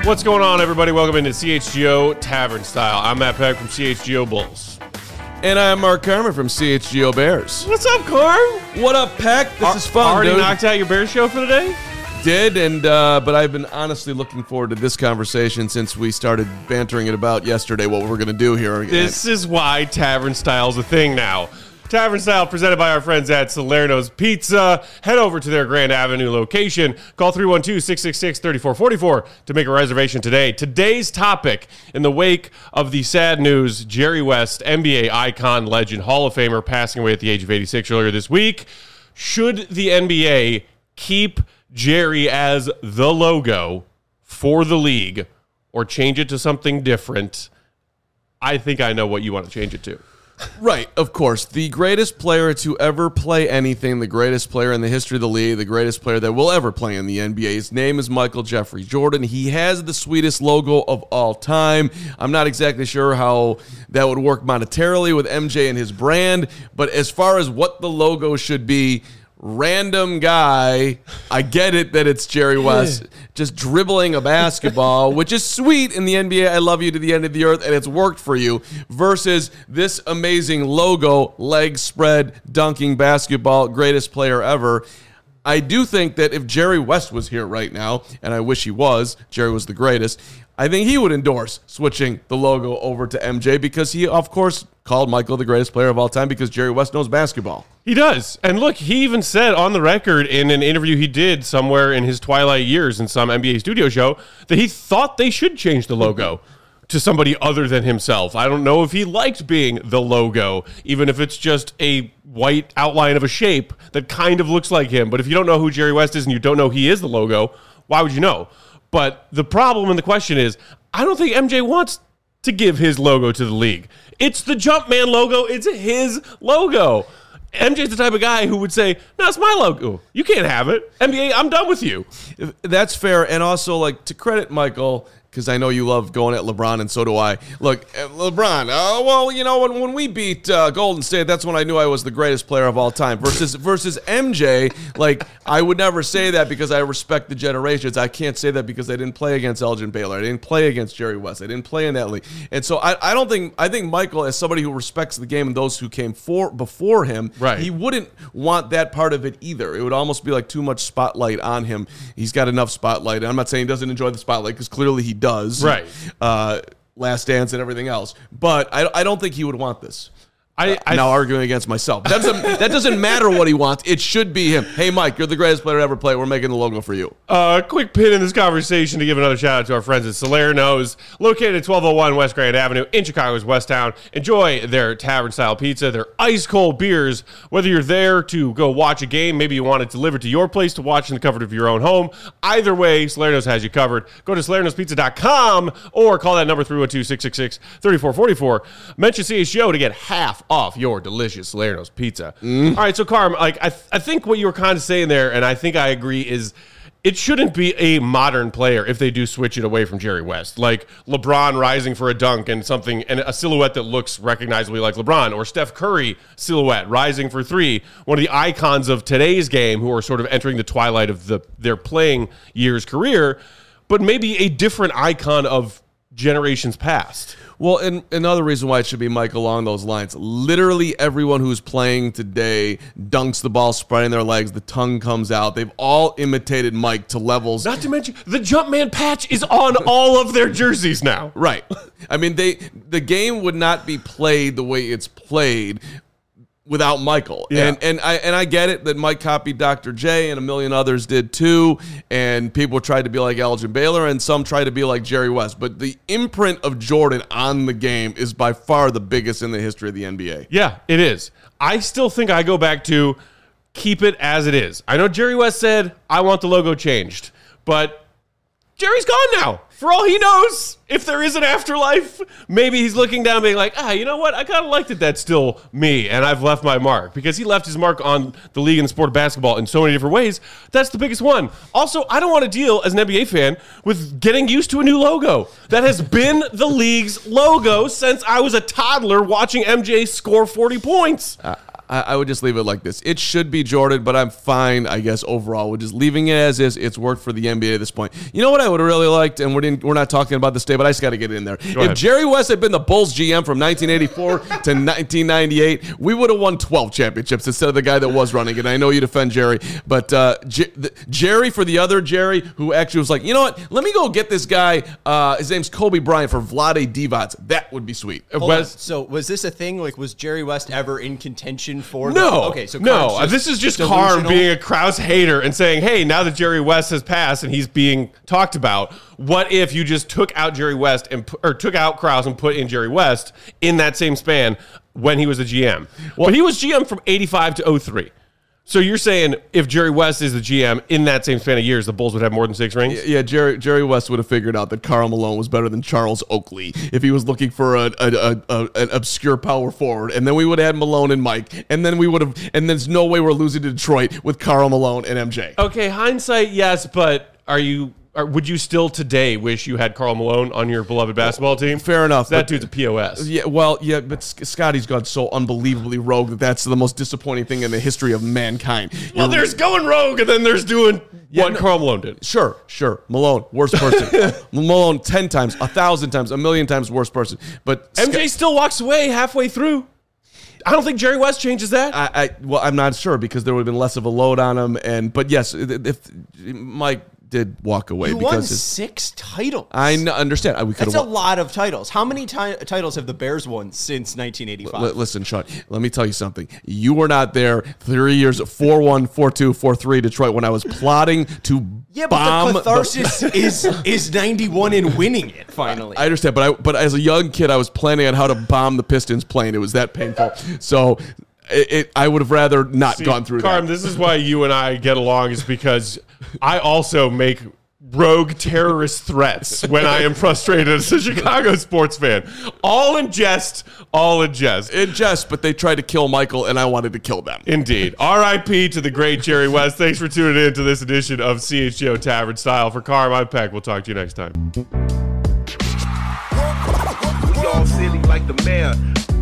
What's going on, everybody? Welcome into CHGO Tavern Style. I'm Matt Peck from CHGO Bulls. And I'm Mark Carmen from CHGO Bears. What's up, Carm? What up, Peck? This is fun, already dude. Knocked out your Bears show for the day? Did, but I've been honestly looking forward to this conversation since we started bantering it about yesterday, what we're going to do here. This is why Tavern Style's a thing now. Tavern Style presented by our friends at Salerno's Pizza. Head over to their Grand Avenue location. Call 312-666-3444 to make a reservation today. Today's topic, in the wake of the sad news, Jerry West, NBA icon, legend, Hall of Famer, passing away at the age of 86 earlier this week. Should the NBA keep Jerry as the logo for the league or change it to something different? I think I know what you want to change it to. Right, of course. The greatest player to ever play anything, the greatest player in the history of the league, the greatest player that will ever play in the NBA. His name is Michael Jeffrey Jordan. He has the sweetest logo of all time. I'm not exactly sure how that would work monetarily with MJ and his brand, but as far as what the logo should be, random guy, I get it that it's Jerry West just dribbling a basketball, which is sweet in the NBA. I love you to the end of the earth, and it's worked for you, versus this amazing logo, leg spread, dunking basketball, greatest player ever. I do think that if Jerry West was here right now, and I wish he was, Jerry was the greatest, I think he would endorse switching the logo over to MJ because he, of course, called Michael the greatest player of all time because Jerry West knows basketball. He does. And look, he even said on the record in an interview he did somewhere in his twilight years in some NBA studio show that he thought they should change the logo to somebody other than himself. I don't know if he liked being the logo, even if it's just a white outline of a shape that kind of looks like him. But if you don't know who Jerry West is and you don't know he is the logo, why would you know? But the problem and the question is, I don't think MJ wants to give his logo to the league. It's the Jumpman logo. It's his logo. MJ's the type of guy who would say, no, it's my logo. You can't have it. NBA, I'm done with you. That's fair. And also, like, to credit Michael, because I know you love going at LeBron, and so do I. Look, LeBron, well, you know, when we beat Golden State, that's when I knew I was the greatest player of all time. Versus MJ, like, I would never say that because I respect the generations. I can't say that because I didn't play against Elgin Baylor. I didn't play against Jerry West. I didn't play in that league. And so I think Michael, as somebody who respects the game and those who came before him, right, he wouldn't want that part of it either. It would almost be like too much spotlight on him. He's got enough spotlight. And I'm not saying he doesn't enjoy the spotlight because clearly he does. Right. Last Dance and everything else. But I don't think he would want this. I'm now arguing against myself. That doesn't matter what he wants. It should be him. Hey, Mike, you're the greatest player to ever play. We're making the logo for you. Quick pin in this conversation to give another shout out to our friends at Salerno's, located at 1201 West Grand Avenue in Chicago's Westtown. Enjoy their tavern-style pizza, their ice-cold beers. Whether you're there to go watch a game, maybe you want it delivered to your place to watch in the comfort of your own home. Either way, Salerno's has you covered. Go to salernospizza.com or call that number 312-666-3444. Mention CHGO to get half off your delicious Salerno's pizza. All right, so Carm, like I think what you were kind of saying there, and I think I agree, is it shouldn't be a modern player if they do switch it away from Jerry West, like LeBron rising for a dunk and something, and a silhouette that looks recognizably like LeBron, or Steph Curry silhouette rising for three, one of the icons of today's game who are sort of entering the twilight of their playing years career, but maybe a different icon of generations past. Well, and another reason why it should be Mike along those lines. Literally everyone who's playing today dunks the ball, spreading their legs, the tongue comes out. They've all imitated Mike to levels. Not to mention, the Jumpman patch is on all of their jerseys now. Right. I mean, the game would not be played the way it's played without Michael. Yeah. And I get it that Mike copied Dr. J and a million others did too, and people tried to be like Elgin Baylor and some tried to be like Jerry West, but the imprint of Jordan on the game is by far the biggest in the history of the NBA. Yeah, it is. I still think I go back to keep it as it is. I know Jerry West said, I want the logo changed, but Jerry's gone now. For all he knows, if there is an afterlife, maybe he's looking down being like, you know what? I kind of liked it. That's still me, and I've left my mark. Because he left his mark on the league and the sport of basketball in so many different ways. That's the biggest one. Also, I don't want to deal, as an NBA fan, with getting used to a new logo. That has been the league's logo since I was a toddler watching MJ score 40 points. I would just leave it like this. It should be Jordan, but I'm fine, I guess, overall. We're just leaving it as is. It's worked for the NBA at this point. You know what I would have really liked, and we're not talking about this today, but I just got to get it in there. If Jerry West had been the Bulls GM from 1984 to 1998, we would have won 12 championships instead of the guy that was running it. I know you defend Jerry, but Jerry for the other Jerry, who actually was like, you know what? Let me go get this guy. His name's Kobe Bryant for Vlade Divac. That would be sweet. So was this a thing? Like, was Jerry West ever in contention for? No. Okay, so no. This is just Carm being a Krause hater and saying, hey, now that Jerry West has passed and he's being talked about, what if you just took out Jerry West or took out Krause and put in Jerry West in that same span when he was a GM? Well, he was GM from 85 to 03. So you're saying if Jerry West is the GM in that same span of years, the Bulls would have more than 6 rings? Yeah, Jerry West would have figured out that Karl Malone was better than Charles Oakley if he was looking for an obscure power forward, and then we would have had Malone and Mike, and then there's no way we're losing to Detroit with Karl Malone and MJ. Okay, hindsight, yes, but would you still today wish you had Karl Malone on your beloved basketball team? Fair enough. That dude's a POS. Yeah, but Scotty's gone so unbelievably rogue that's the most disappointing thing in the history of mankind. Well, there's going rogue, and then there's doing what Karl Malone did. Sure. Malone, worst person. Malone 10 times, 1,000 times, 1,000,000 times worst person. But MJ still walks away halfway through. I don't think Jerry West changes that. I'm not sure because there would have been less of a load on him. But yes, if Mike did walk away you because won 6 titles. I understand. That's a lot of titles. How many titles have the Bears won since 1985? Listen, Sean, let me tell you something. You were not there 3 years, 4-1, 4-2, 4-3 Detroit when I was plotting to bomb. But the catharsis is 91 and winning it finally. I understand, but as a young kid, I was planning on how to bomb the Pistons plane. It was that painful. So I would have rather not gone through Carm, that. this is why you and I get along, is because I also make rogue terrorist threats when I am frustrated as a Chicago sports fan. All in jest. In jest, but they tried to kill Michael, and I wanted to kill them. Indeed. R.I.P. to the great Jerry West. Thanks for tuning in to this edition of CHGO Tavern Style. For Carm, I'm Peck. We'll talk to you next time. We all silly like the mayor.